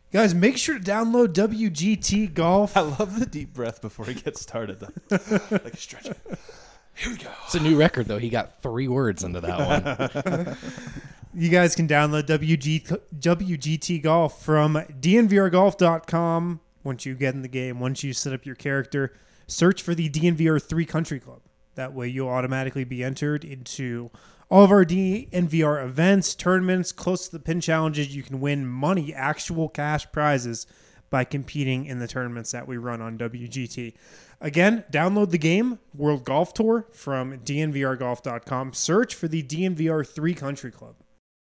Guys, make sure to download WGT Golf. I love the deep breath before he gets started. Like a stretch. Here we go. It's a new record, though. He got 3 words into that one. You guys can download WGT Golf from DNVRGolf.com. Once you get in the game, once you set up your character, search for the DNVR 3 Country Club. That way you'll automatically be entered into all of our DNVR events, tournaments, close to the pin challenges. You can win money, actual cash prizes by competing in the tournaments that we run on WGT. Again, download the game, World Golf Tour, from DNVRGolf.com. Search for the DNVR 3 Country Club.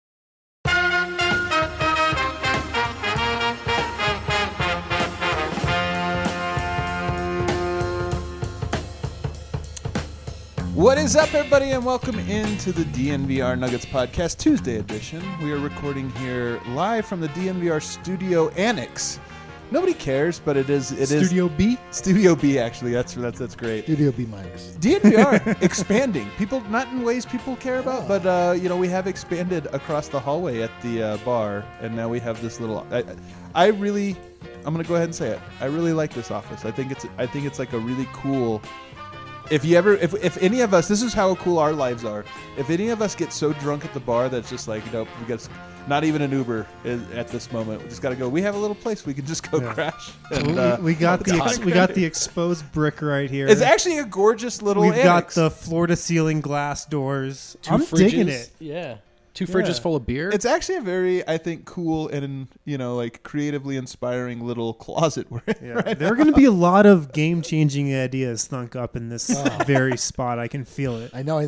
What is up, everybody, and welcome into the DNVR Nuggets Podcast Tuesday edition. We are recording here live from the DNVR Studio Annex. Nobody cares, but it is Studio B? Studio B, actually. That's great. Studio B minus. DNVR expanding. People, not in ways people care about, but we have expanded across the hallway at the bar, and now we have this little. I'm going to go ahead and say it. I really like this office. I think it's like a really cool. If any of us, this is how cool our lives are. If any of us get so drunk at the bar that's just like, we got not even an Uber at this moment. We just got to go. We have a little place we can just go crash. And, we got the exposed brick right here. It's actually a gorgeous little. We've got annex. the floor to ceiling glass doors. 2 I'm fridges. digging it. Yeah. 2 fridges full of beer. It's actually a very, I think, cool and creatively inspiring little closet. There are going to be a lot of game-changing ideas thunk up in this very spot. I can feel it. I know.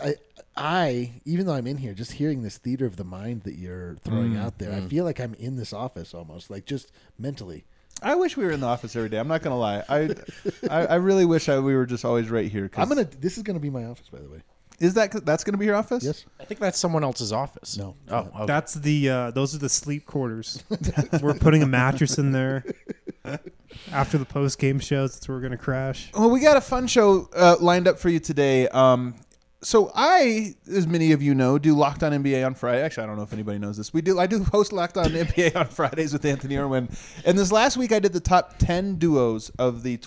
I even though I'm in here, just hearing this theater of the mind that you're throwing out there, I feel like I'm in this office almost, like just mentally. I wish we were in the office every day. I'm not gonna lie. I really wish we were just always right here. This is gonna be my office, by the way. That's gonna be your office? Yes. I think that's someone else's office. No. Oh, okay. That's those are the sleep quarters. We're putting a mattress in there. After the post-game shows, that's where we're going to crash. Well, we got a fun show lined up for you today. So I, as many of you know, do Locked On NBA on Friday. Actually, I don't know if anybody knows this. I do host Locked On NBA on Fridays with Anthony Irwin. And this last week, I did the top 10 duos of the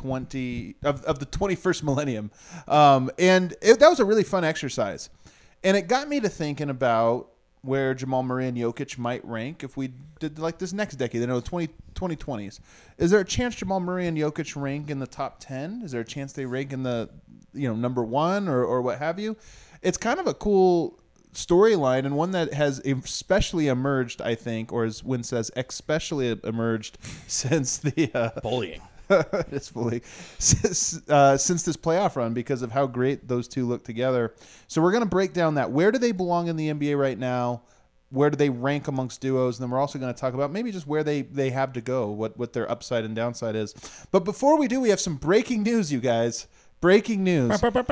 21st millennium. That was a really fun exercise. And it got me to thinking about where Jamal Murray and Jokic might rank if we did like this next decade, 2020s. Is there a chance Jamal Murray and Jokic rank in the top 10? Is there a chance they rank in the number 1 or what have you? It's kind of a cool storyline and one that has especially emerged, I think, or as Wynn says, especially emerged since the bullying. It's bullying since this playoff run because of how great those two look together. So we're going to break down that. Where do they belong in the NBA right now? Where do they rank amongst duos? And then we're also going to talk about maybe just where they have to go, what their upside and downside is. But before we do, we have some breaking news, you guys. Breaking news. This is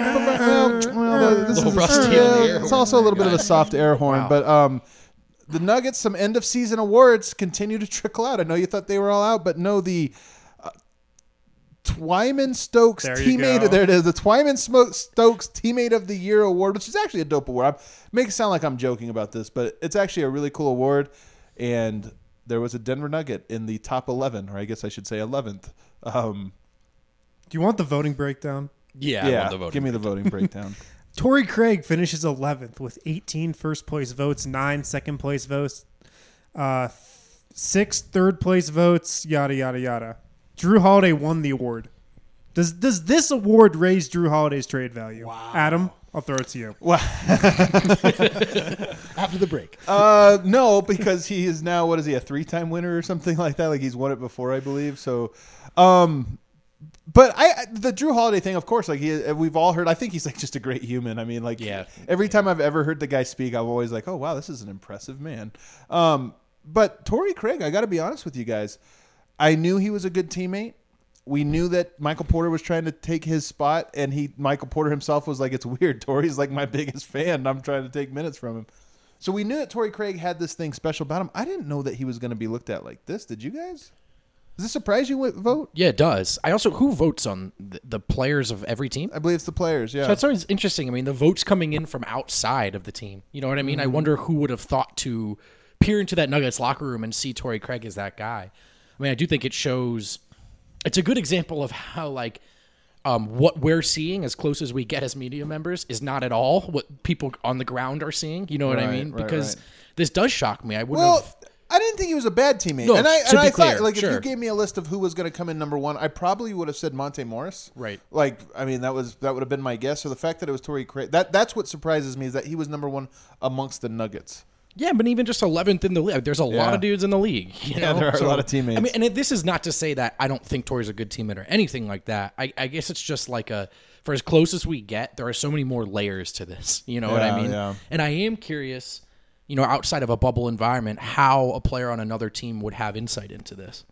rusty on the air it's also a little bit of a soft air horn, Wow. but the Nuggets, some end of season awards continue to trickle out. I know you thought they were all out, but no, the Twyman Stokes teammate. There it is, the Twyman Stokes Teammate of the Year award, which is actually a dope award. Make it sound like I'm joking about this, but it's actually a really cool award. And there was a Denver Nugget in the top 11, or I guess I should say 11th. Do you want the voting breakdown? Yeah, I want the voting. Give me the voting breakdown. Torrey Craig finishes 11th with 18 first-place votes, 9 second-place votes, 6 third-place votes, yada, yada, yada. Drew Holiday won the award. Does this award raise Drew Holiday's trade value? Wow. Adam, I'll throw it to you. Well, After the break. no, because he is now, what is he, a 3-time winner or something like that? Like he's won it before, I believe. So, but the Drew Holiday thing, of course, like we've all heard. I think he's like just a great human. I mean, like every time I've ever heard the guy speak, I'm always like, oh wow, this is an impressive man. But Torrey Craig, I got to be honest with you guys, I knew he was a good teammate. We knew that Michael Porter was trying to take his spot, and Michael Porter himself was like, it's weird. Torrey's like my biggest fan, and I'm trying to take minutes from him. So we knew that Torrey Craig had this thing special about him. I didn't know that he was going to be looked at like this. Did you guys? Does this surprise you, vote? Yeah, it does. Who votes on the players of every team? I believe it's the players, yeah. So it's always interesting. I mean, the votes coming in from outside of the team. You know what I mean? I wonder who would have thought to peer into that Nuggets locker room and see Torrey Craig as that guy. I mean, I do think it shows. It's a good example of how what we're seeing as close as we get as media members is not at all what people on the ground are seeing. You know what I Right, mean? right, Because right. this does shock me. I wouldn't Well, have. I didn't think he was a bad teammate. No, and I to be clear, thought, like, if sure. you gave me a list of who was going to come in number one, I probably would have said Monte Morris. Right. Like, I mean, that would have been my guess. So the fact that it was Torrey Craig, that's what surprises me, is that he was number one amongst the Nuggets. Yeah, but even just 11th in the league, there's a lot Yeah. of dudes in the league. You Yeah, know? there are a lot of teammates. I mean, and this is not to say that I don't think Torrey's a good teammate or anything like that. I guess it's just for as close as we get, there are so many more layers to this. You know what I Yeah, mean? yeah. And I am curious, outside of a bubble environment, how a player on another team would have insight into this.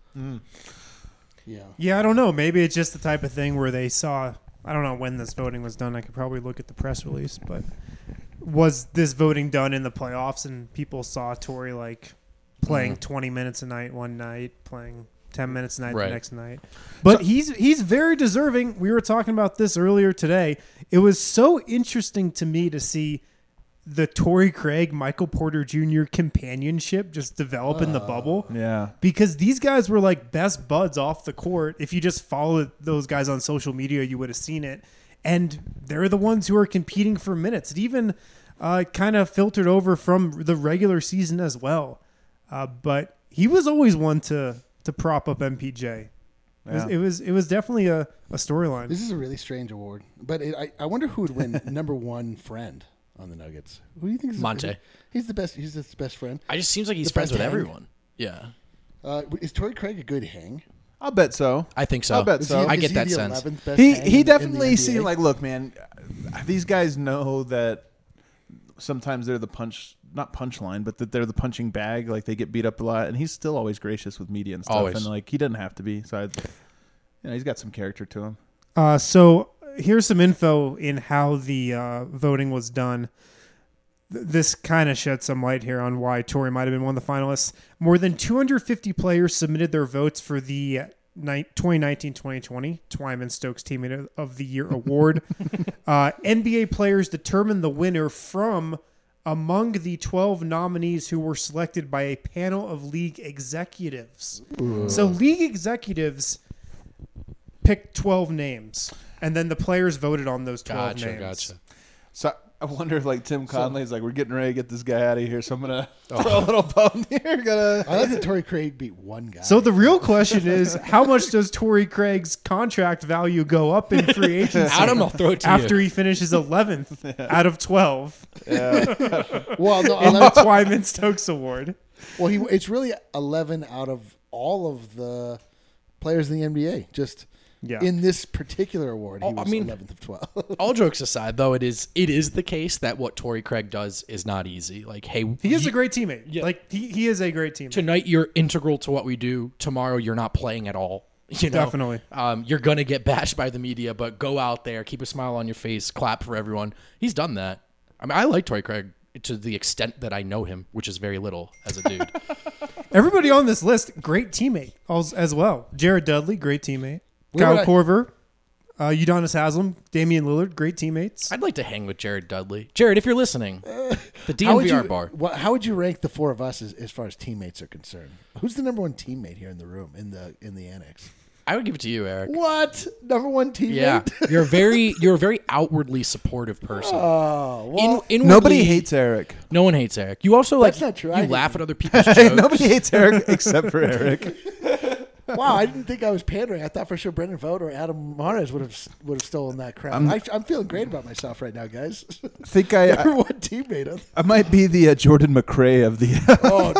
Yeah. Yeah, I don't know. Maybe it's just the type of thing where they saw. I don't know when this voting was done. I could probably look at the press release, but was this voting done in the playoffs and people saw Torrey playing 20 minutes a night one night, playing 10 minutes a night Right. the next night? But he's very deserving. We were talking about this earlier today. It was so interesting to me to see the Torrey Craig, Michael Porter Jr. companionship just develop in the bubble. Yeah. Because these guys were like best buds off the court. If you just followed those guys on social media, you would have seen it. And they're the ones who are competing for minutes. It even kind of filtered over from the regular season as well. But he was always one to prop up MPJ. Yeah. It was definitely a storyline. This is a really strange award, but I wonder who would win number one friend on the Nuggets. Who do you think is Monte. He's the best. He's his best friend. It just seems like he's The friends best with hang? everyone. Yeah, Is Torrey Craig a good hang? I'll bet so. I think so. I'll bet Is so. I is get he that the sense. 11th best He hang in he the definitely NBA? seemed like, look, man, these guys know that sometimes they're the not punchline, but that they're the punching bag. Like, they get beat up a lot, and he's still always gracious with media and stuff. Always. And he doesn't have to be. So he's got some character to him. So here's some info in how the voting was done. This kind of sheds some light here on why Torrey might have been one of the finalists. More than 250 players submitted their votes for the 2019-2020 Twyman Stokes Teammate of the Year award. NBA players determined the winner from among the 12 nominees who were selected by a panel of league executives. So league executives picked 12 names, and then the players voted on those 12 names. Gotcha. So I wonder if Tim Conley's we're getting ready to get this guy out of here, so I'm gonna throw a little bone here. I like that Torrey Craig beat one guy. So the real question is, how much does Torrey Craig's contract value go up in free agency Adam, I'll throw it to after you. he finishes 11th out of 12 well, no, in the 11, Twyman Stokes Award? well, it's really 11 out of all of the players in the NBA. Just Yeah. in this particular award, he Oh, was I mean- 11th of 12. All jokes aside, though, it is the case that what Torrey Craig does is not easy. Hey, He is a great teammate. Yeah. He is a great teammate. tonight you're integral to what we do. Tomorrow you're not playing at all. Definitely. You're gonna get bashed by the media, but go out there, keep a smile on your face, clap for everyone. He's done that. I mean, I like Torrey Craig to the extent that I know him, which is very little as a dude. Everybody on this list, great teammate as well. Jared Dudley, great teammate. Where Kyle would I- Korver, Udonis Haslam, Damian Lillard, great teammates. I'd like to hang with Jared Dudley. Jared, if you're listening, the How would DNVR you, bar. how would you rank the four of us as far as teammates are concerned? Who's the number one teammate here in the room, in the annex? I would give it to you, Eric. What? Number one teammate? Yeah, you're a very outwardly supportive person. Oh, well, Inwardly, Nobody hates Eric. No one hates Eric. You also That's not true. I You hate laugh him. at other people's jokes. Nobody hates Eric except for Eric. wow, I didn't think I was pandering. I thought for sure Brendan Vogt or Adam Mares would have stolen that crown. I'm feeling great about myself right now, guys. I think Number one teammate. I might be the Jordan McRae of the. Oh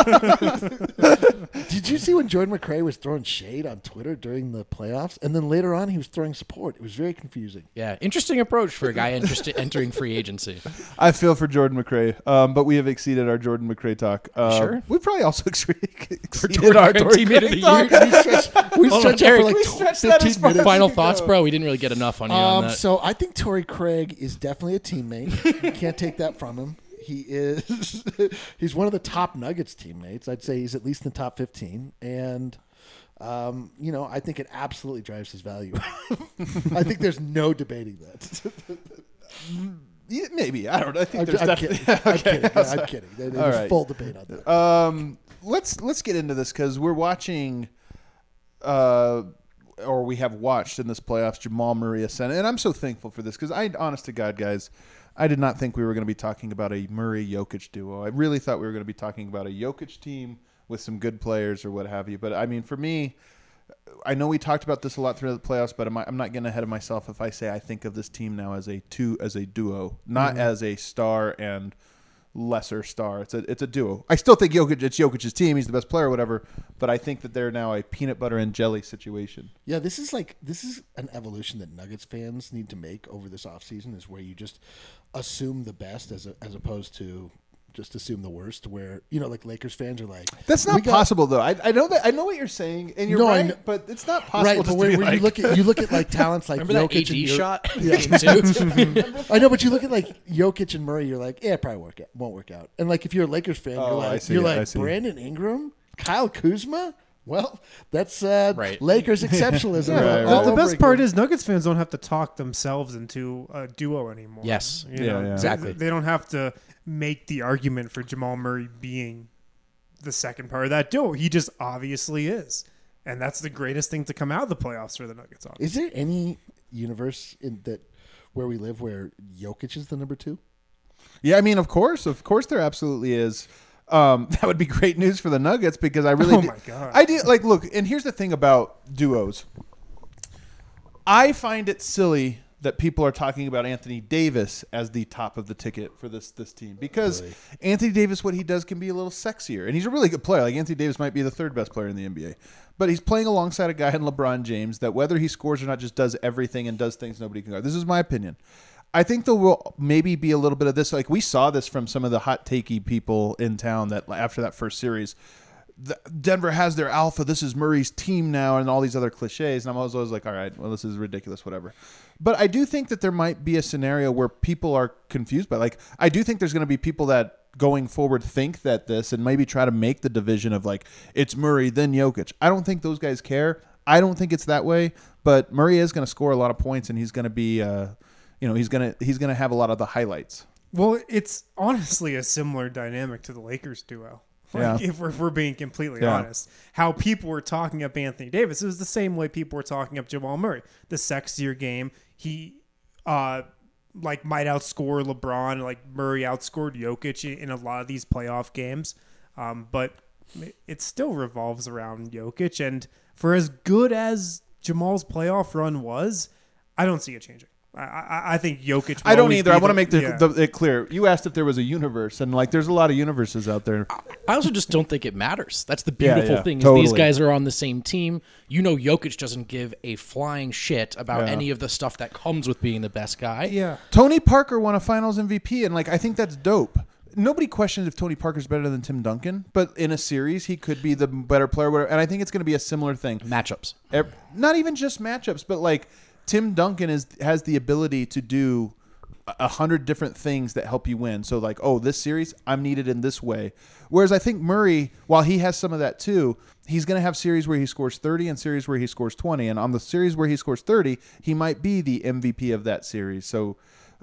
no! Did you see when Jordan McRae was throwing shade on Twitter during the playoffs, and then later on he was throwing support? It was very confusing. Yeah, interesting approach for a guy entering free agency. I feel for Jordan McRae, but we have exceeded our Jordan McRae talk. Sure? We probably also exceeded Jordan our Craig Jordan teammate of Craig the talk. year. We Hold on, stretched out Eric, for like we stretched that as 15 far minutes. Final thoughts, bro. We didn't really get enough on you on that. So I think Torrey Craig is definitely a teammate. You can't take that from him. He is. He's one of the top Nuggets teammates. I'd say he's at least in the top 15, and I think it absolutely drives his value. I think there's no debating that. Yeah, maybe. I don't know. I think I'm, there's I'm definitely. kidding. I'm Okay. kidding. I'm kidding. There's All right. full debate on that. Let's get into this because we're watching, or we have watched in this playoffs, Jamal Murray ascend, and I'm so thankful for this because honest to God, guys, I did not think we were going to be talking about a Murray-Jokic duo. I really thought we were going to be talking about a Jokic team with some good players or what have you. But I mean, for me, I know we talked about this a lot throughout the playoffs, but I'm not getting ahead of myself if I say I think of this team now as a duo, not as a star and lesser star. It's a duo. I still think it's Jokic's team. He's the best player, or whatever. But I think that they're now a peanut butter and jelly situation. Yeah, this is an evolution that Nuggets fans need to make over this offseason, is where you just assume the best as opposed to just assume the worst. Where like Lakers fans are like, That's not possible though. I know that. I know what you're saying, and you're right. But it's not possible. Right, but where you look at like talents like Remember Jokic that AD and shot? Yeah. I know, but you look at like Jokic and Murray, you're like, yeah, it probably won't work out. And like if you're a Lakers fan, I see. Brandon Ingram, Kyle Kuzma. Well, that's Right. Lakers exceptionalism. Right, all The over best again. part is Nuggets fans don't have to talk themselves into a duo anymore. Yes. You know, Yeah. Exactly. They don't have to make the argument for Jamal Murray being the second part of that duo. He just obviously is. And that's the greatest thing to come out of the playoffs for the Nuggets. Obviously. Is there any universe where we live where Jokic is the number 2? Yeah, I mean, of course, there absolutely is. That would be great news for the Nuggets because I really. My God. I do like look, and here's the thing about duos. I find it silly that people are talking about Anthony Davis as the top of the ticket for this team because Anthony Davis, what he does can be a little sexier, and he's a really good player. Like Anthony Davis might be the third best player in the NBA, but he's playing alongside a guy in LeBron James that whether he scores or not just does everything and does things nobody can guard. This is my opinion. I think there will maybe be a little bit of this. Like we saw this from some of the hot takey people in town that after that first series, Denver has their alpha. This is Murray's team now, and all these other cliches. And I'm always like, all right, well, this is ridiculous, whatever. But I do think that there might be a scenario where people are confused by. Like, I do think there's going to be people that going forward think that this and maybe try to make the division of like it's Murray then Jokic. I don't think those guys care. I don't think it's that way. But Murray is going to score a lot of points, and he's going to be. He's gonna have a lot of the highlights. Well, it's honestly a similar dynamic to the Lakers duo. Like, if we're being completely honest, how people were talking up Anthony Davis, it was the same way people were talking up Jamal Murray. The sexier game, he might outscore LeBron, like Murray outscored Jokic in a lot of these playoff games, but it still revolves around Jokic. And for as good as Jamal's playoff run was, I don't see it changing. I think Jokic. I don't either. I want to make it clear. You asked if there was a universe, and like, there's a lot of universes out there. I also just don't think it matters. That's the beautiful thing. Totally. Is these guys are on the same team. Jokic doesn't give a flying shit about any of the stuff that comes with being the best guy. Yeah. Tony Parker won a Finals MVP, and like, I think that's dope. Nobody questions if Tony Parker's better than Tim Duncan, but in a series, he could be the better player. Whatever. And I think it's going to be a similar thing. Matchups. Not even just matchups, but like. Tim Duncan has the ability to do 100 different things that help you win. So like, this series, I'm needed in this way. Whereas I think Murray, while he has some of that too, he's going to have series where he scores 30 and series where he scores 20. And on the series where he scores 30, he might be the MVP of that series. So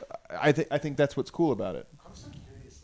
I think that's what's cool about it. I'm so curious.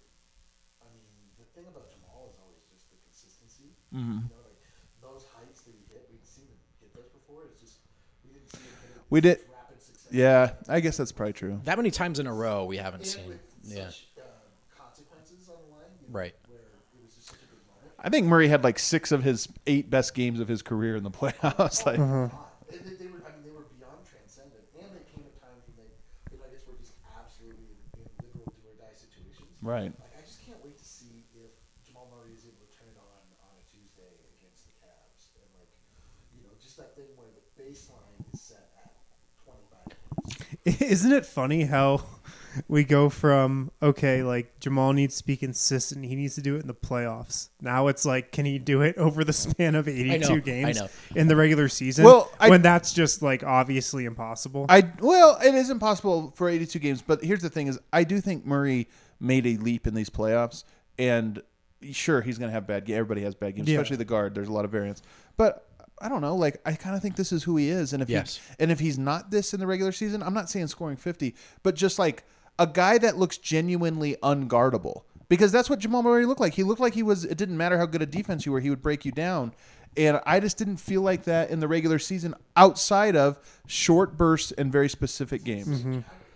The thing about Jamal is always just the consistency. Mm-hmm. Those heights that you hit, we've seen him hit those before. It's just we didn't see him hit it. We did. Rapid success. Yeah, I guess that's probably true. That many times in a row we haven't seen. With Yeah. such consequences on the line. Right. Where it was just such a big moment. I think Murray had like 6 of his 8 best games of his career in the playoffs. Like, They were beyond transcendent, and they came at times when the Nuggets were just absolutely in literal do or die situations. right. Like, I just can't wait to see if Jamal Murray is able to turn it on a Tuesday against the Cavs, and just that thing where the baseline is set at 25 points. Isn't it funny how we go from, like Jamal needs to be consistent. He needs to do it in the playoffs. Now it's like, can he do it over the span of 82 games in the regular season? Well, when that's just like obviously impossible. It is impossible for 82 games, but here's the thing is I do think Murray made a leap in these playoffs, and sure, he's going to have bad games. Everybody has bad games, especially the guard. There's a lot of variance. But I don't know. Like, I kind of think this is who he is. And if if he's not this in the regular season, I'm not saying scoring 50, but just like, a guy that looks genuinely unguardable. Because that's what Jamal Murray looked like. He looked like it didn't matter how good a defense you were, he would break you down. And I just didn't feel like that in the regular season outside of short bursts and very specific games. Mm-hmm.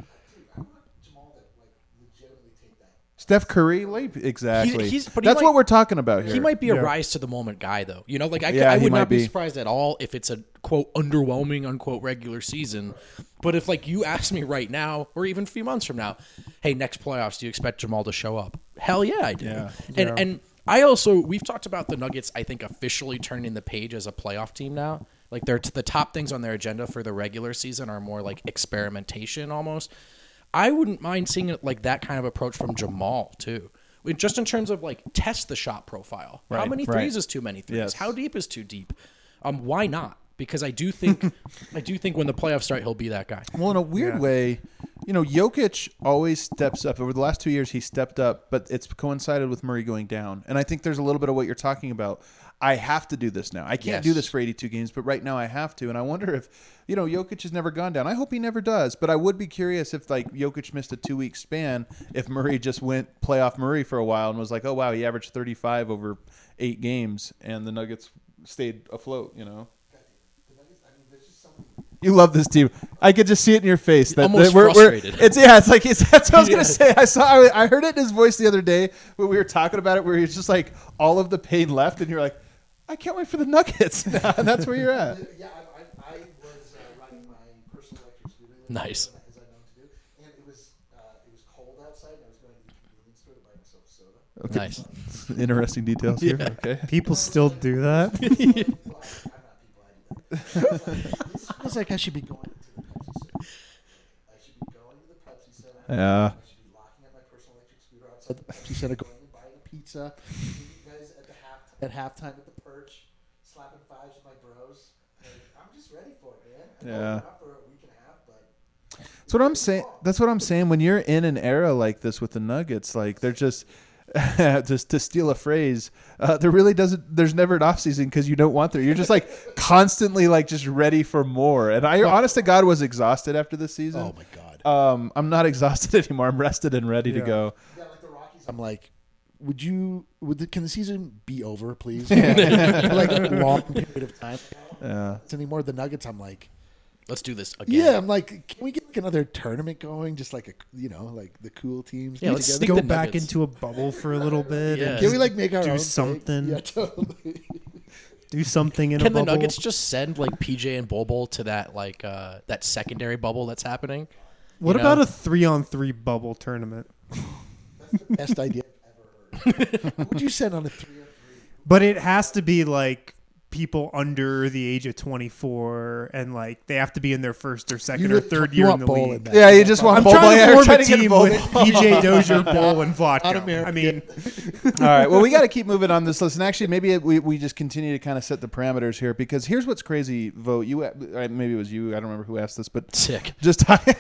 Steph Curry, exactly. But That's what we're talking about here. He might be a Yeah. rise to the moment guy, though. You know, like I Yeah, he would might not be be. surprised at all if it's a quote underwhelming unquote regular season. But if like you ask me right now, or even a few months from now, hey, next playoffs, do you expect Jamal to show up? Hell yeah, I do. Yeah. And I also we've talked about the Nuggets. I think officially turning the page as a playoff team now. Like they're the top things on their agenda for the regular season are more like experimentation almost. I wouldn't mind seeing it like that kind of approach from Jamal too. Just in terms of like test the shot profile. How Right, many right. threes is too many threes? Yes. How deep is too deep? Why not? Because I do think when the playoffs start, he'll be that guy. Well, in a weird way, Jokic always steps up. Over the last 2 years, he stepped up, but it's coincided with Murray going down. And I think there's a little bit of what you're talking about. I have to do this now. I can't do this for 82 games, but right now I have to. And I wonder if, Jokic has never gone down. I hope he never does. But I would be curious if, like, Jokic missed a 2-week span, if Murray just went playoff Murray for a while and was like, oh, wow, he averaged 35 over 8 games, and the Nuggets stayed afloat, You love this team. I could just see it in your face. That Almost we're frustrated. It's that's what I was gonna say. I heard it in his voice the other day when we were talking about it, where he's just like all of the pain left, and you're like, I can't wait for the Nuggets. And that's where you're at. Yeah, I was riding my personal electric scooter. Nice. As I know to do, and it was cold outside. And I was going to the convenience store to buy myself soda. Okay. Nice. Interesting details here. Okay. People still do that. Well, I'm not people. I do that. This feels like I should be going to the Pepsi Center. I should be going to the Pepsi Center. Yeah. I should be locking up my personal electric scooter outside the Pepsi Center, going and buying a pizza. Meeting you guys at halftime at the Perch, slapping fives with my bros. Like, I'm just ready for it, man. I know Yeah. we're not for a week and a half, but That's what I'm saying. That's what I'm saying. When you're in an era like this with the Nuggets, like they're just to steal a phrase, there really doesn't. There's never an off season because you don't want there. You're just like constantly like just ready for more. And I, honest to God, was exhausted after this season. oh my god. I'm not exhausted anymore. I'm rested and ready to go. Yeah, like the Rockies. I'm like, can the season be over, please? Like a long period of time. Yeah. It's anymore. The Nuggets, I'm like, Let's do this again. yeah, I'm like, can we get like another tournament going? Just like like the cool teams. Yeah, get let's together? stick Go the back Nuggets. into a bubble for a little bit. Yeah. And Can we like make our do own something? Thing? Yeah, totally. do something in Can a the bubble? Nuggets just send like PJ and Bol to that like that secondary bubble that's happening? What you about know? a 3-on-3 bubble tournament? Best idea I've ever heard. What would you send on a 3-on-3? But it has to be like people under the age of 24, and like they have to be in their first or second or third year in the league. Yeah, you just want I'm Bol trying to Bol. form a to get team Bol with Bol. PJ Dozier, Bowl, and vodka. Un-American. I mean, All right. Well, we got to keep moving on this list. And actually, maybe we just continue to kind of set the parameters here, because here's what's crazy, Vote. Maybe it was you. I don't remember who asked this, but Sick. just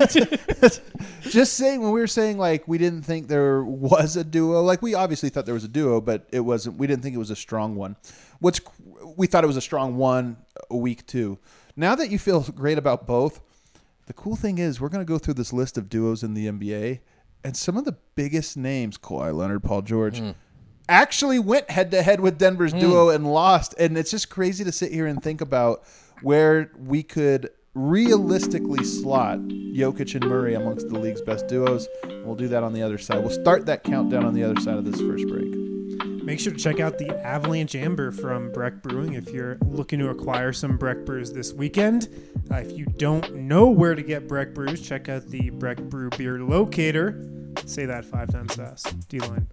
saying, when we were saying like we didn't think there was a duo, like we obviously thought there was a duo, but it wasn't. We didn't think it was a strong one. We thought it was a strong one a week two. Now that you feel great about both, the cool thing is we're going to go through this list of duos in the NBA, and some of the biggest names, Kawhi Leonard, Paul George, actually went head to head with Denver's duo and lost. And it's just crazy to sit here and think about where we could realistically slot Jokic and Murray amongst the league's best duos. We'll do that on the other side. We'll start that countdown on the other side of this first break. make sure to check out the Avalanche Amber from Breck Brewing if you're looking to acquire some Breck brews this weekend. If you don't know where to get Breck brews, check out the Breck Brew Beer Locator. Say that 5 times fast. D-line.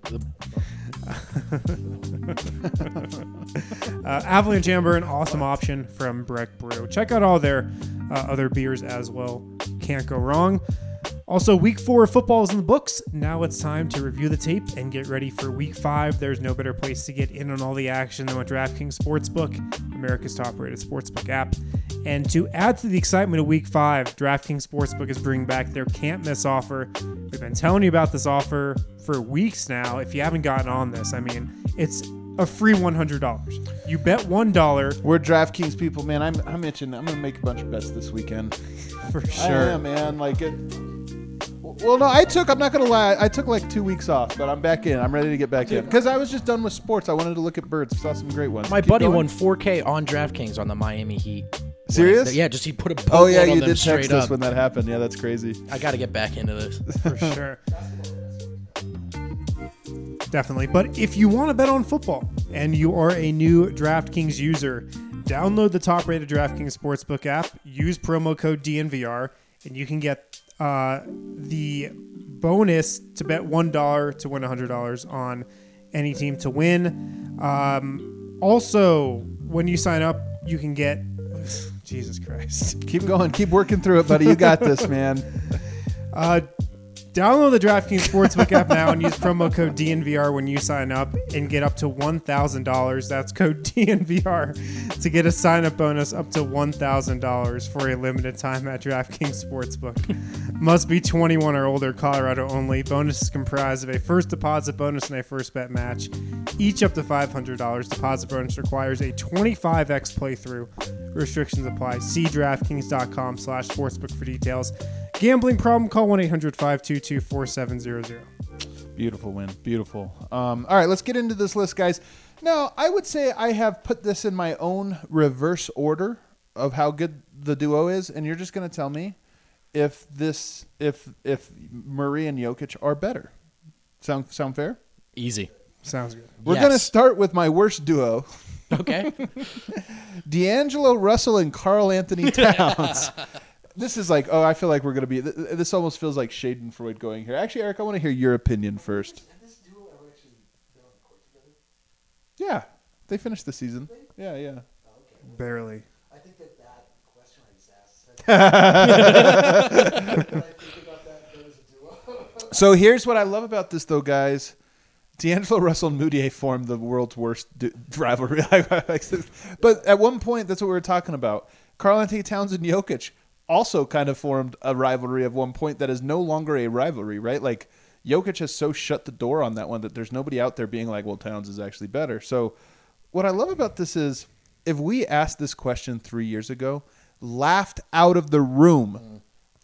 Avalanche Amber, an awesome option from Breck Brew. Check out all their other beers as well. Can't go wrong. Also, week 4 of football is in the books. Now it's time to review the tape and get ready for week 5. There's no better place to get in on all the action than with DraftKings Sportsbook, America's top-rated sportsbook app. And to add to the excitement of week 5, DraftKings Sportsbook is bringing back their can't-miss offer. We've been telling you about this offer for weeks now. If you haven't gotten on this, I mean, it's a free $100. You bet $1. We're DraftKings people, man. I'm itching. I'm gonna make a bunch of bets this weekend. For I sure. am, man. Like it. Well, no, I'm not going to lie. I took like 2 weeks off, but I'm back in. I'm ready to get back in. Because I was just done with sports. I wanted to look at birds. Saw some great ones. My Keep buddy going. won 4K on DraftKings on the Miami Heat. Serious? Yeah, just he put a boatload Oh, yeah, on you them did straight text us up. when that happened. Yeah, that's crazy. I got to get back into this. For sure. Definitely. But if you want to bet on football and you are a new DraftKings user, download the top-rated DraftKings Sportsbook app, use promo code DNVR, and you can get the bonus to bet $1 to win $100 on any team to win. Also, when you sign up, you can get... Jesus Christ. Keep going. Keep working through it, buddy. You got this, man. Download the DraftKings Sportsbook app now and use promo code DNVR when you sign up and get up to $1,000. That's code DNVR to get a sign-up bonus up to $1,000 for a limited time at DraftKings Sportsbook. Must be 21 or older, Colorado only. Bonus is comprised of a first deposit bonus and a first bet match, each up to $500. Deposit bonus requires a 25x playthrough. Restrictions apply. See DraftKings.com/sportsbook for details. Gambling problem? Call 1-800-522-4700. Beautiful win. Beautiful. All right, let's get into this list, guys. Now, I would say I have put this in my own reverse order of how good the duo is, and you're just going to tell me if Murray and Jokic are better. Sound fair? Easy. Sounds good. We're Yes. going to start with my worst duo, Okay. D'Angelo Russell and Karl Anthony Towns. This is like, I feel like we're going to be, this almost feels like Schadenfreude going here. Actually, Eric, I want to hear your opinion first. Have this duo ever actually been on the court together? Yeah, they finished the season. Yeah, yeah. Barely. I think that question I just asked. I think about that as a duo. So here's what I love about this, though, guys. D'Angelo Russell and Moutier formed the world's worst rivalry. But at one point, that's what we were talking about. Karl Anthony Towns and Jokic also kind of formed a rivalry at one point that is no longer a rivalry, right? Like, Jokic has so shut the door on that one that there's nobody out there being like, well, Towns is actually better. So what I love about this is if we asked this question 3 years ago, laughed out of the room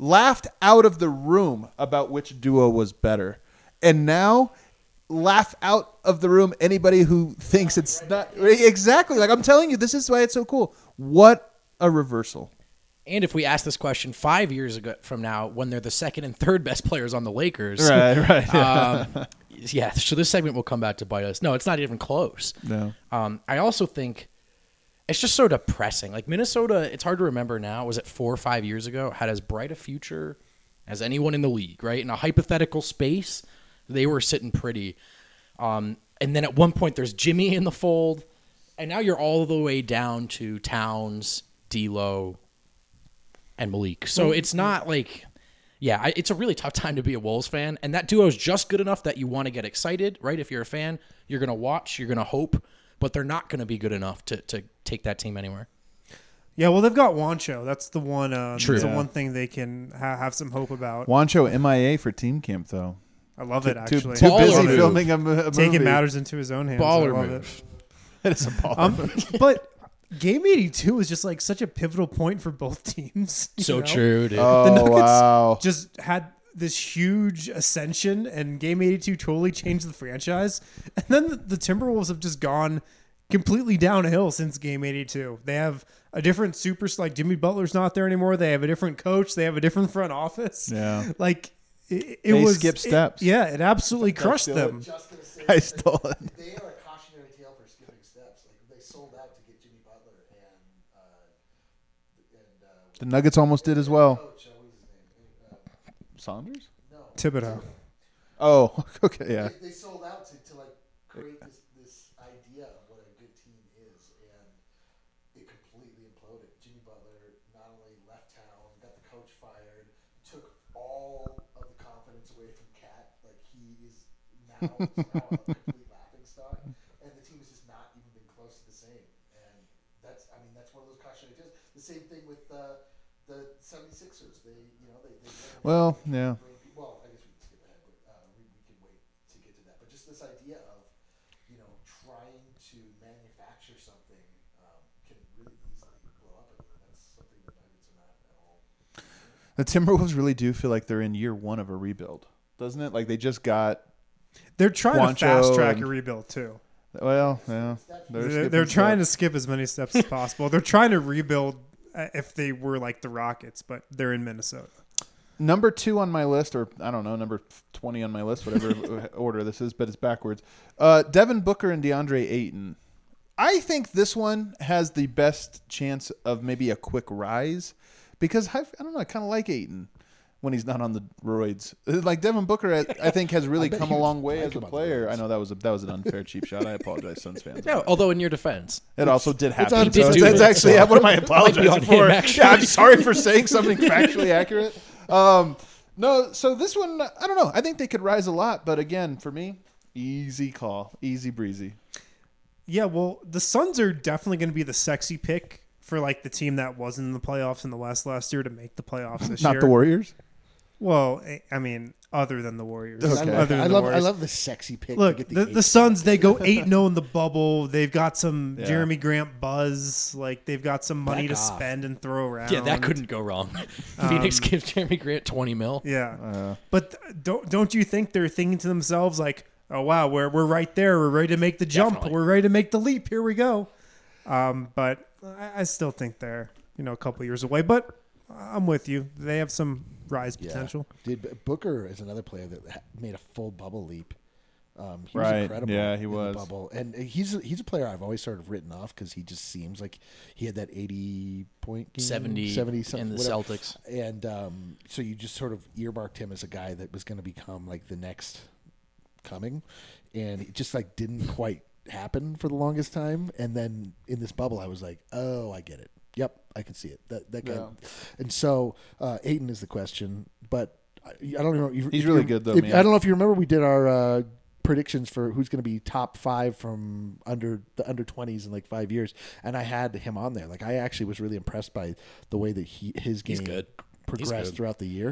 about which duo was better. And now laugh out of the room anybody who thinks it's not. Exactly. Like, I'm telling you, this is why it's so cool. What a reversal. And if we ask this question 5 years ago from now, when they're the second and third best players on the Lakers, Right. yeah. So this segment will come back to bite us. No, it's not even close. No. I also think it's just so depressing. Like Minnesota, it's hard to remember now. Was it 4 or 5 years ago? Had as bright a future as anyone in the league, right? In a hypothetical space, they were sitting pretty. And then at one point, there's Jimmy in the fold, and now you're all the way down to Towns, D'Lo, and Malik. So it's not like, it's a really tough time to be a Wolves fan. And that duo is just good enough that you want to get excited, right? If you're a fan, you're going to watch, you're going to hope, but they're not going to be good enough to take that team anywhere. Yeah, well, they've got Juancho. That's the one. True. That's the Yeah. one thing they can have some hope about. Juancho MIA for team camp, though. I love it, Too actually. busy Baller move. filming a movie. Taking matters into his own hands. I Baller love move. It is a baller. But Game 82 was just like such a pivotal point for both teams. you So know? true, dude. Oh, The Nuggets wow. just had this huge ascension, and Game 82 totally changed the franchise. And then the Timberwolves have just gone completely downhill since Game 82. They have a different like Jimmy Butler's not there anymore. They have a different coach. They have a different front office. Yeah. Like it They was skipped steps. it absolutely crushed still them. Just gonna say, I stole it. they are a cautionary tale for skipping steps. Like they sold out to get Jimmy Butler and The Nuggets almost did as well. coach. What was his name? Saunders? No. Thibodeau. Oh, okay, yeah. They sold out to like create this idea of what a good team is, and it completely imploded. Jimmy Butler not only left town, got the coach fired, took all of the confidence away from Cat. Like he is now a complete laughing stock, and the team has just not even been close to the same. And that's one of those cautionary tales. The same thing with the 76ers. They Well, yeah. Well, I guess we can skip ahead, but we can wait to get to that. But just this idea of, trying to manufacture something can really easily blow up. That's something the Nuggets are not at all. The Timberwolves really do feel like they're in year one of a rebuild, doesn't it? Like they just got. They're trying Juancho to fast track and- a rebuild too. Well, yeah. They're trying to skip as many steps as possible. They're trying to rebuild if they were like the Rockets, but they're in Minnesota. Number 2 on my list, or I don't know, number 20 on my list, whatever order this is, but it's backwards. Devin Booker and DeAndre Ayton. I think this one has the best chance of maybe a quick rise because I don't know, I kind of like Ayton when he's not on the roids. Like Devin Booker, I think has really come a long way as a player. I know that was an unfair cheap shot. I apologize, Suns fans. No, although in your defense, It also did happen. on So him. that's actually what am I Might be apologizing on for? him, actually. Yeah, I'm sorry for saying something factually accurate. No, so this one, I don't know. I think they could rise a lot, but again, for me, easy call, easy breezy. Yeah, well, the Suns are definitely going to be the sexy pick for like the team that wasn't in the playoffs in the West last year to make the playoffs this year. Not the Warriors. Well, I mean, other than the Warriors. Okay. Other than I the love Warriors. the sexy pick. to Look, get the eighth Suns, they go 8-0 in the bubble. They've got some Yeah. Jeremy Grant buzz. Like, they've got some money Back to off. spend and throw around. yeah, that couldn't go wrong. Phoenix gives Jeremy Grant $20 million. Yeah. But don't you think they're thinking to themselves, like, oh, wow, we're right there. We're ready to make the jump. Definitely. We're ready to make the leap. Here we go. But I still think they're, a couple years away. But I'm with you. They have some rise potential. Dude, Booker is another player that made a full bubble leap. He was Right. incredible. Yeah, he in the was. bubble, and he's a player I've always sort of written off because he just seems like he had that 80-point game, 70 something, in the whatever. Celtics. And so you just sort of earmarked him as a guy that was going to become like the next coming, and it just like didn't quite happen for the longest time. And then in this bubble, I was like, oh, I get it. Yep, I can see it. That guy. Yeah. And so Ayton is the question, but I don't know. He's really good, though, man. I don't know if you remember, we did our predictions for who's going to be top 5 from under 20s in like 5 years, and I had him on there. Like I actually was really impressed by the way that his game good. progressed good. throughout the year.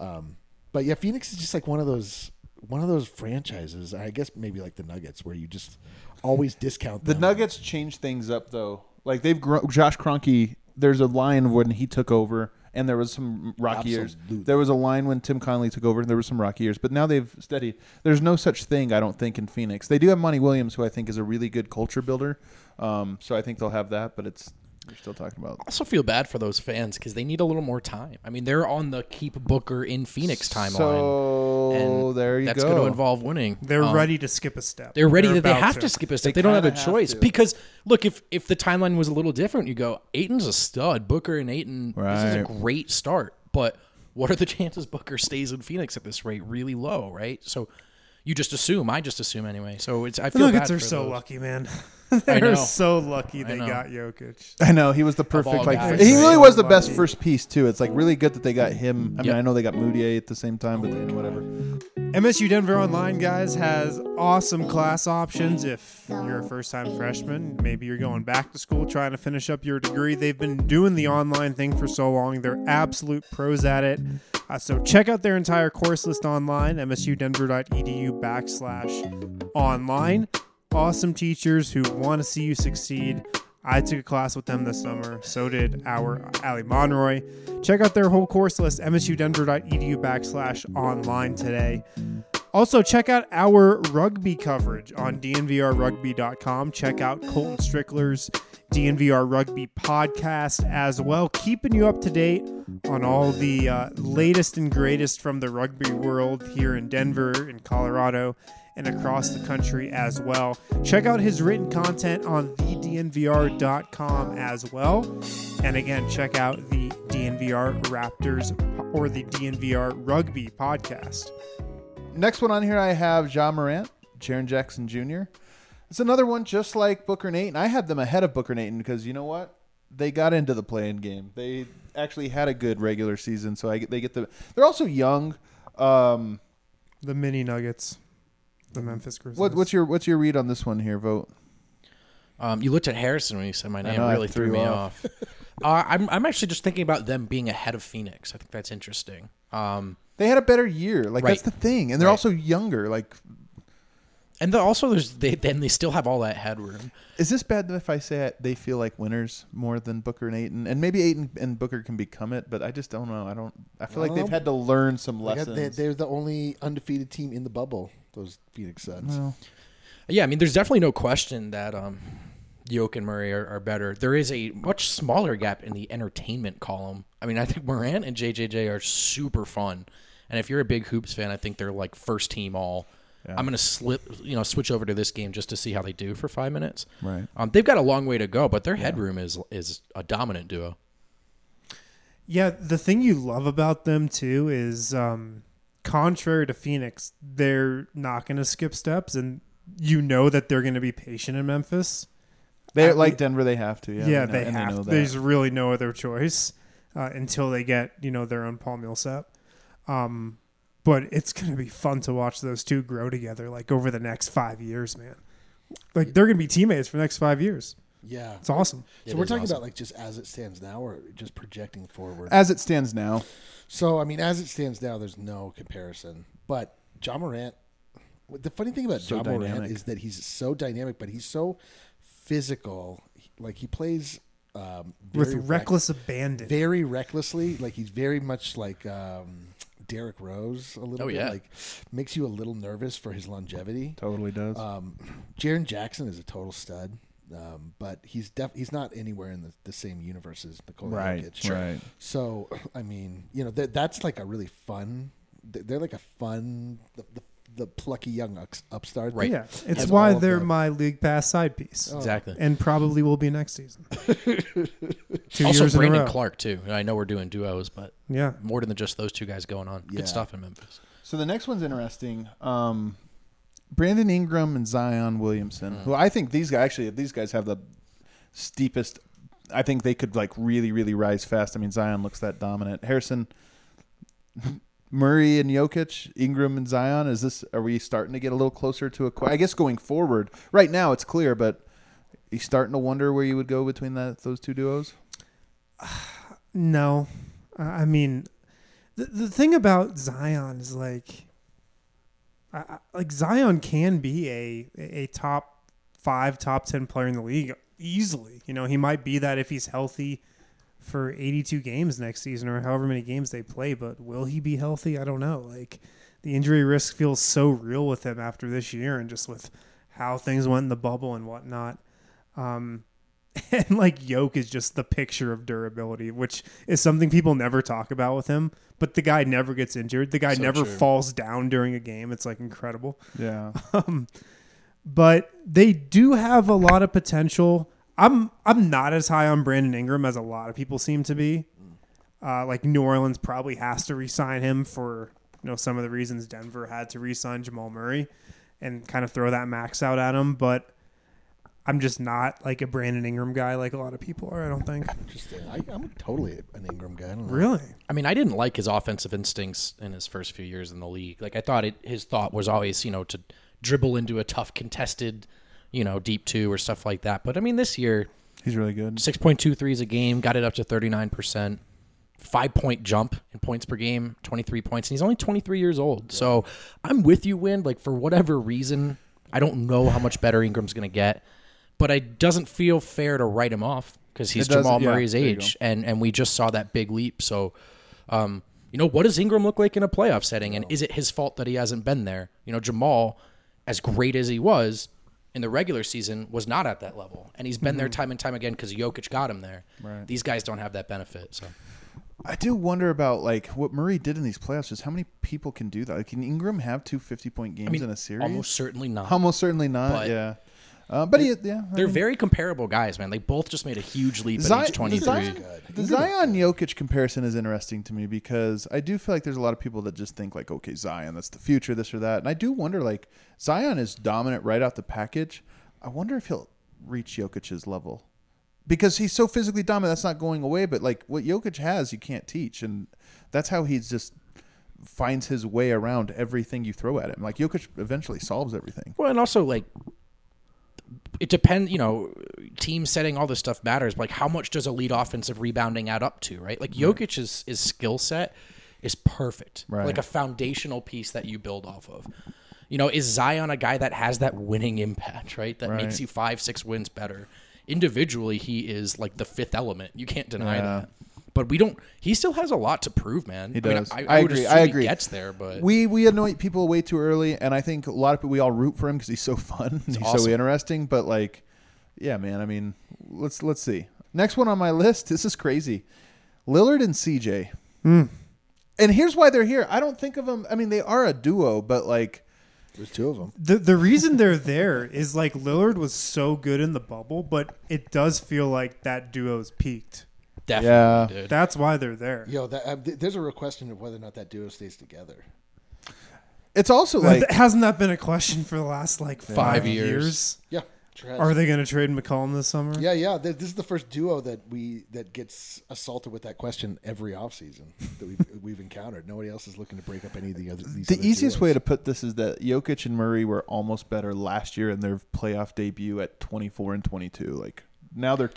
But yeah, Phoenix is just like one of those franchises. I guess maybe like the Nuggets, where you just always discount The them. Nuggets changed things up, though. Like they've grown. Josh Kroenke, there's a line when he took over, and there was some rocky years. Absolutely. There was a line when Tim Connelly took over, and there was some rocky years. But now they've steadied. There's no such thing, I don't think, in Phoenix. They do have Monty Williams, who I think is a really good culture builder. So I think they'll have that, but we're still talking about. I also feel bad for those fans because they need a little more time. I mean, they're on the keep Booker in Phoenix timeline. So and there you that's go. going to involve winning. They're ready to skip a step. They're ready. They about have to skip a step. They They don't have a kinda have choice to. because look, if the timeline was a little different, you go Ayton's a stud. Booker and Ayton. This is a Right. great start, but what are the chances Booker stays in Phoenix at this rate? Really low, right? So you just assume. I just assume anyway. So it's. I The feel Nuggets bad are for so those. lucky, man. I They're know. so lucky they know. got Jokic. I know he was the perfect. all Like guys. he really was the So best lucky. first piece too. It's like really good that they got him. I mean, Yep. I know they got Moutier at the same time, but whatever. MSU Denver Online, guys, has awesome class options. If you're a first-time freshman, maybe you're going back to school trying to finish up your degree. They've been doing the online thing for so long. They're absolute pros at it. So check out their entire course list online, msudenver.edu/online. Awesome teachers who want to see you succeed. I took a class with them this summer. So did our Ali Monroy. Check out their whole course list, msudenver.edu/online today. Also, check out our rugby coverage on dnvrrugby.com. Check out Colton Strickler's DNVR Rugby podcast as well, keeping you up to date on all the latest and greatest from the rugby world here in Denver, in Colorado, and across the country as well. Check out his written content on thednvr.com as well. And again, check out the DNVR Raptors or the DNVR Rugby podcast. Next one on here, I have Ja Morant, Jaren Jackson Jr. It's another one just like Booker and Ayton. I had them ahead of Booker and Ayton because you know what? They got into the play-in game. They actually had a good regular season, so they get the. They're also young. The mini Nuggets, the Memphis Grizzlies. What's your read on this one here? Vote. You looked at Harrison when you said my name. know, I Really threw threw me you off. I'm actually just thinking about them being ahead of Phoenix. I think that's interesting. They had a better year. Like Right. that's the thing, and they're Right. also younger. Like And also, they still have all that headroom. Is this bad if I say they feel like winners more than Booker and Ayton? And maybe Ayton and Booker can become it, but I just don't know. I feel like they've had to learn some lessons. They're the only undefeated team in the bubble, those Phoenix Suns. Well, Yeah, I mean, there's definitely no question that Jokic and Murray are better. There is a much smaller gap in the entertainment column. I mean, I think Morant and JJJ are super fun. And if you're a big Hoops fan, I think they're like first team all. Yeah. I'm going to switch over to this game just to see how they do for 5 minutes. Right. They've got a long way to go, but their headroom is a dominant duo. Yeah, the thing you love about them too is, contrary to Phoenix, they're not going to skip steps, and you know that they're going to be patient in Memphis. They're like Denver. They have to. Yeah, they have to. There's really no other choice until they get their own Paul Millsap. But it's going to be fun to watch those two grow together, like over the next 5 years, man. Like they're going to be teammates for the next 5 years. Yeah, it's awesome. So we're talking about like just as it stands now, or just projecting forward. As it stands now. So I mean, as it stands now, there's no comparison. But Ja Morant. The funny thing about Ja Morant is that he's so dynamic, but he's so physical. Like he plays with reckless abandon, very recklessly. Like he's very much like Derrick Rose a little bit. Yeah. Like makes you a little nervous for his longevity. Totally does. Jaren Jackson is a total stud. But he's not anywhere in the same universe as Nikola Jokic. Right. So I mean, that's like a really fun. They're like a fun the plucky young upstart. Right. Yeah, it's why they're my league pass side piece. Exactly. And probably will be next season. 2 Also, years in a Brandon row. Clark too. I know we're doing duos, but yeah, more than just those two guys going on. Yeah. Good stuff in Memphis. So the next one's interesting. Brandon Ingram and Zion Williamson, who I think these guys have the steepest. I think they could like really, really rise fast. I mean, Zion looks that dominant. Harrison, Murray and Jokic, Ingram and Zion. Are we starting to get a little closer to I guess going forward, right now it's clear, but you starting to wonder where you would go between those two duos? No, I mean, the thing about Zion is like Zion can be a top 5, top 10 player in the league easily. He might be that if he's healthy for 82 games next season or however many games they play, but will he be healthy? I don't know. Like the injury risk feels so real with him after this year and just with how things went in the bubble and whatnot. And like Yoke is just the picture of durability, which is something people never talk about with him, but the guy never gets injured. The guy never falls down during a game. It's like incredible. Yeah. But they do have a lot of potential. I'm not as high on Brandon Ingram as a lot of people seem to be. Like New Orleans probably has to re-sign him for some of the reasons Denver had to re-sign Jamal Murray and kind of throw that max out at him. But I'm just not like a Brandon Ingram guy like a lot of people are, I don't think. Interesting. I'm totally an Ingram guy. I don't know. Really? I mean, I didn't like his offensive instincts in his first few years in the league. Like I thought his thought was always, to dribble into a tough contested, deep 2 or stuff like that. But I mean, this year he's really good. 6.2 threes a game, got it up to 39%, 5-point jump in points per game, 23 points, and he's only 23 years old. Yeah. So I'm with you, Win. Like for whatever reason, I don't know how much better Ingram's going to get, but it doesn't feel fair to write him off because he's Jamal Murray's age, and we just saw that big leap. So, what does Ingram look like in a playoff setting, and is it his fault that he hasn't been there? Jamal, as great as he was in the regular season, was not at that level, and he's been there time and time again because Jokic got him there. Right. These guys don't have that benefit. So, I do wonder about like what Murray did in these playoffs. Just how many people can do that? Like, can Ingram have 2 50-point games in a series? Almost certainly not. Almost certainly not. But yeah. They're very comparable guys, man. They both just made a huge leap at age 23. The Zion-Jokic comparison is interesting to me because I do feel like there's a lot of people that just think like, okay, Zion, that's the future, this or that. And I do wonder, like, Zion is dominant right out the package. I wonder if he'll reach Jokic's level because he's so physically dominant. That's not going away. But like what Jokic has, you can't teach, and that's how he's just finds his way around everything you throw at him. Like Jokic eventually solves everything. Well, and also like it depends, team setting, all this stuff matters. But like how much does elite offensive rebounding add up to, right? Like Jokic's skill set is perfect. Right. Like a foundational piece that you build off of. You know, is Zion a guy that has that winning impact, right? That makes you 5-6 wins better. Individually, he is like the fifth element. You can't deny that. But he still has a lot to prove, man. He does. I agree. I agree. He gets there, but we annoy people way too early, and I think a lot of people, we all root for him because he's so fun, and he's so interesting. But like, yeah, man. I mean, let's see. Next one on my list. This is crazy. Lillard and CJ. And here's why they're here. I don't think of them. I mean, they are a duo, but like, there's two of them. The reason they're there is like Lillard was so good in the bubble, but it does feel like that duo's peaked. Definitely, dude. That's why they're there. Yo, there's a real question of whether or not that duo stays together. It's also like, hasn't that been a question for the last like 5 years? Yeah. Sure. Are they going to trade McCollum this summer? Yeah. This is the first duo that gets assaulted with that question every offseason that we've encountered. Nobody else is looking to break up any of the other. The easiest way to put this is that Jokic and Murray were almost better last year in their playoff debut at 24 and 22. Like now they're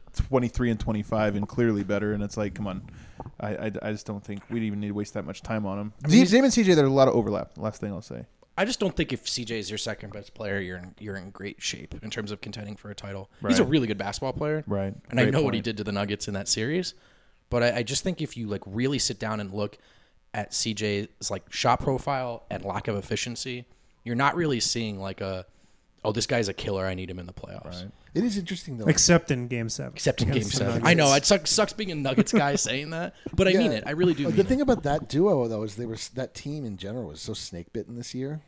23 and 25 and clearly better. And it's like, come on, I just don't think we'd even need to waste that much time on them. Dame and CJ, there's a lot of overlap. Last thing I'll say. I just don't think if CJ is your second best player, you're in great shape in terms of contending for a title. Right. He's a really good basketball player, right? And I know what he did to the Nuggets in that series, but I just think if you like really sit down and look at CJ's like shot profile and lack of efficiency, you're not really seeing like this guy's a killer. I need him in the playoffs. Right. It is interesting though, except in Game 7. Except in Game 7. I know it sucks being a Nuggets guy saying that, but I mean it. I really do. The thing about that duo though is that team in general was so snake bitten this year.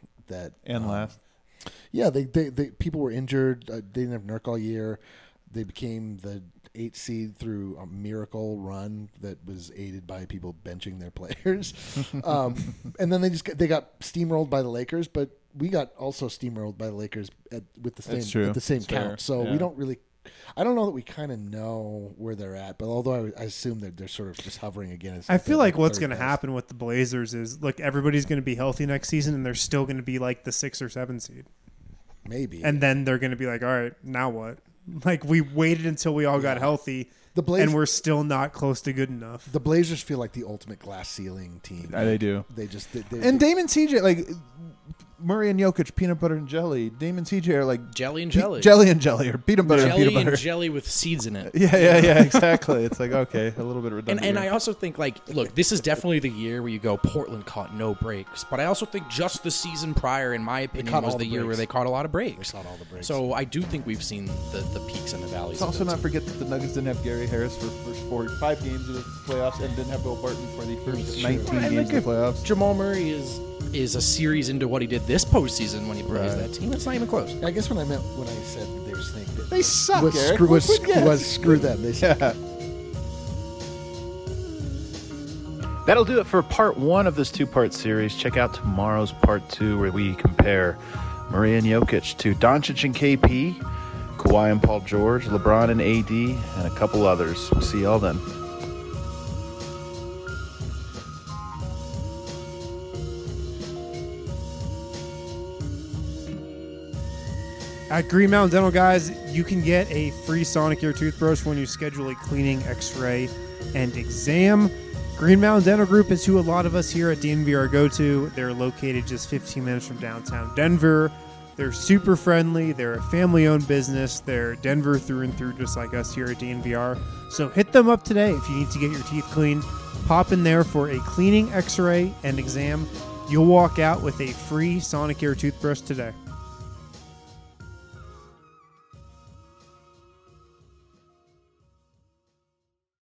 Last. Yeah, they people were injured. They didn't have Nurk all year. They became the 8th seed through a miracle run that was aided by people benching their players. And then they got steamrolled by the Lakers, but we got also steamrolled by the Lakers with the same count. So we don't really. I don't know that we kind of know where they're at, but although I assume that they're sort of just hovering again. I feel like what's going to happen with the Blazers is, look, everybody's going to be healthy next season, and they're still going to be like the 6 or 7 seed. Maybe. And then they're going to be like, all right, now what? Like, we waited until we all got healthy, and we're still not close to good enough. The Blazers feel like the ultimate glass ceiling team. They do. They just... and Dame and CJ, like... Murray and Jokic, peanut butter and jelly. Dame and CJ are like jelly and jelly. Jelly and jelly, or peanut butter and peanut butter. Jelly and jelly with seeds in it. Yeah, exactly. It's like, okay, a little bit redundant. And I also think, like, look, this is definitely the year where you go, Portland caught no breaks. But I also think just the season prior, in my opinion, was the year where they caught a lot of breaks. They caught all the breaks. So I do think we've seen the peaks and the valleys. Let's also not forget that the Nuggets didn't have Gary Harris for the first 5 games of the playoffs and didn't have Bill Barton for the first 19 games of the playoffs. Jamal Murray is a series into what he did this postseason when he plays that team. It's not even close. I guess when I said that they were snake bitten. They suck, was Eric. Screw them. They suck. Yeah. That'll do it for part 1 of this 2-part series. Check out tomorrow's part 2 where we compare Murray and Jokic to Doncic and KP, Kawhi and Paul George, LeBron and AD, and a couple others. We'll see y'all then. At Green Mountain Dental, guys, you can get a free Sonicare toothbrush when you schedule a cleaning, x-ray, and exam. Green Mountain Dental Group is who a lot of us here at DNVR go to. They're located just 15 minutes from downtown Denver. They're super friendly. They're a family-owned business. They're Denver through and through, just like us here at DNVR. So hit them up today if you need to get your teeth cleaned. Pop in there for a cleaning, x-ray, and exam. You'll walk out with a free Sonicare toothbrush today.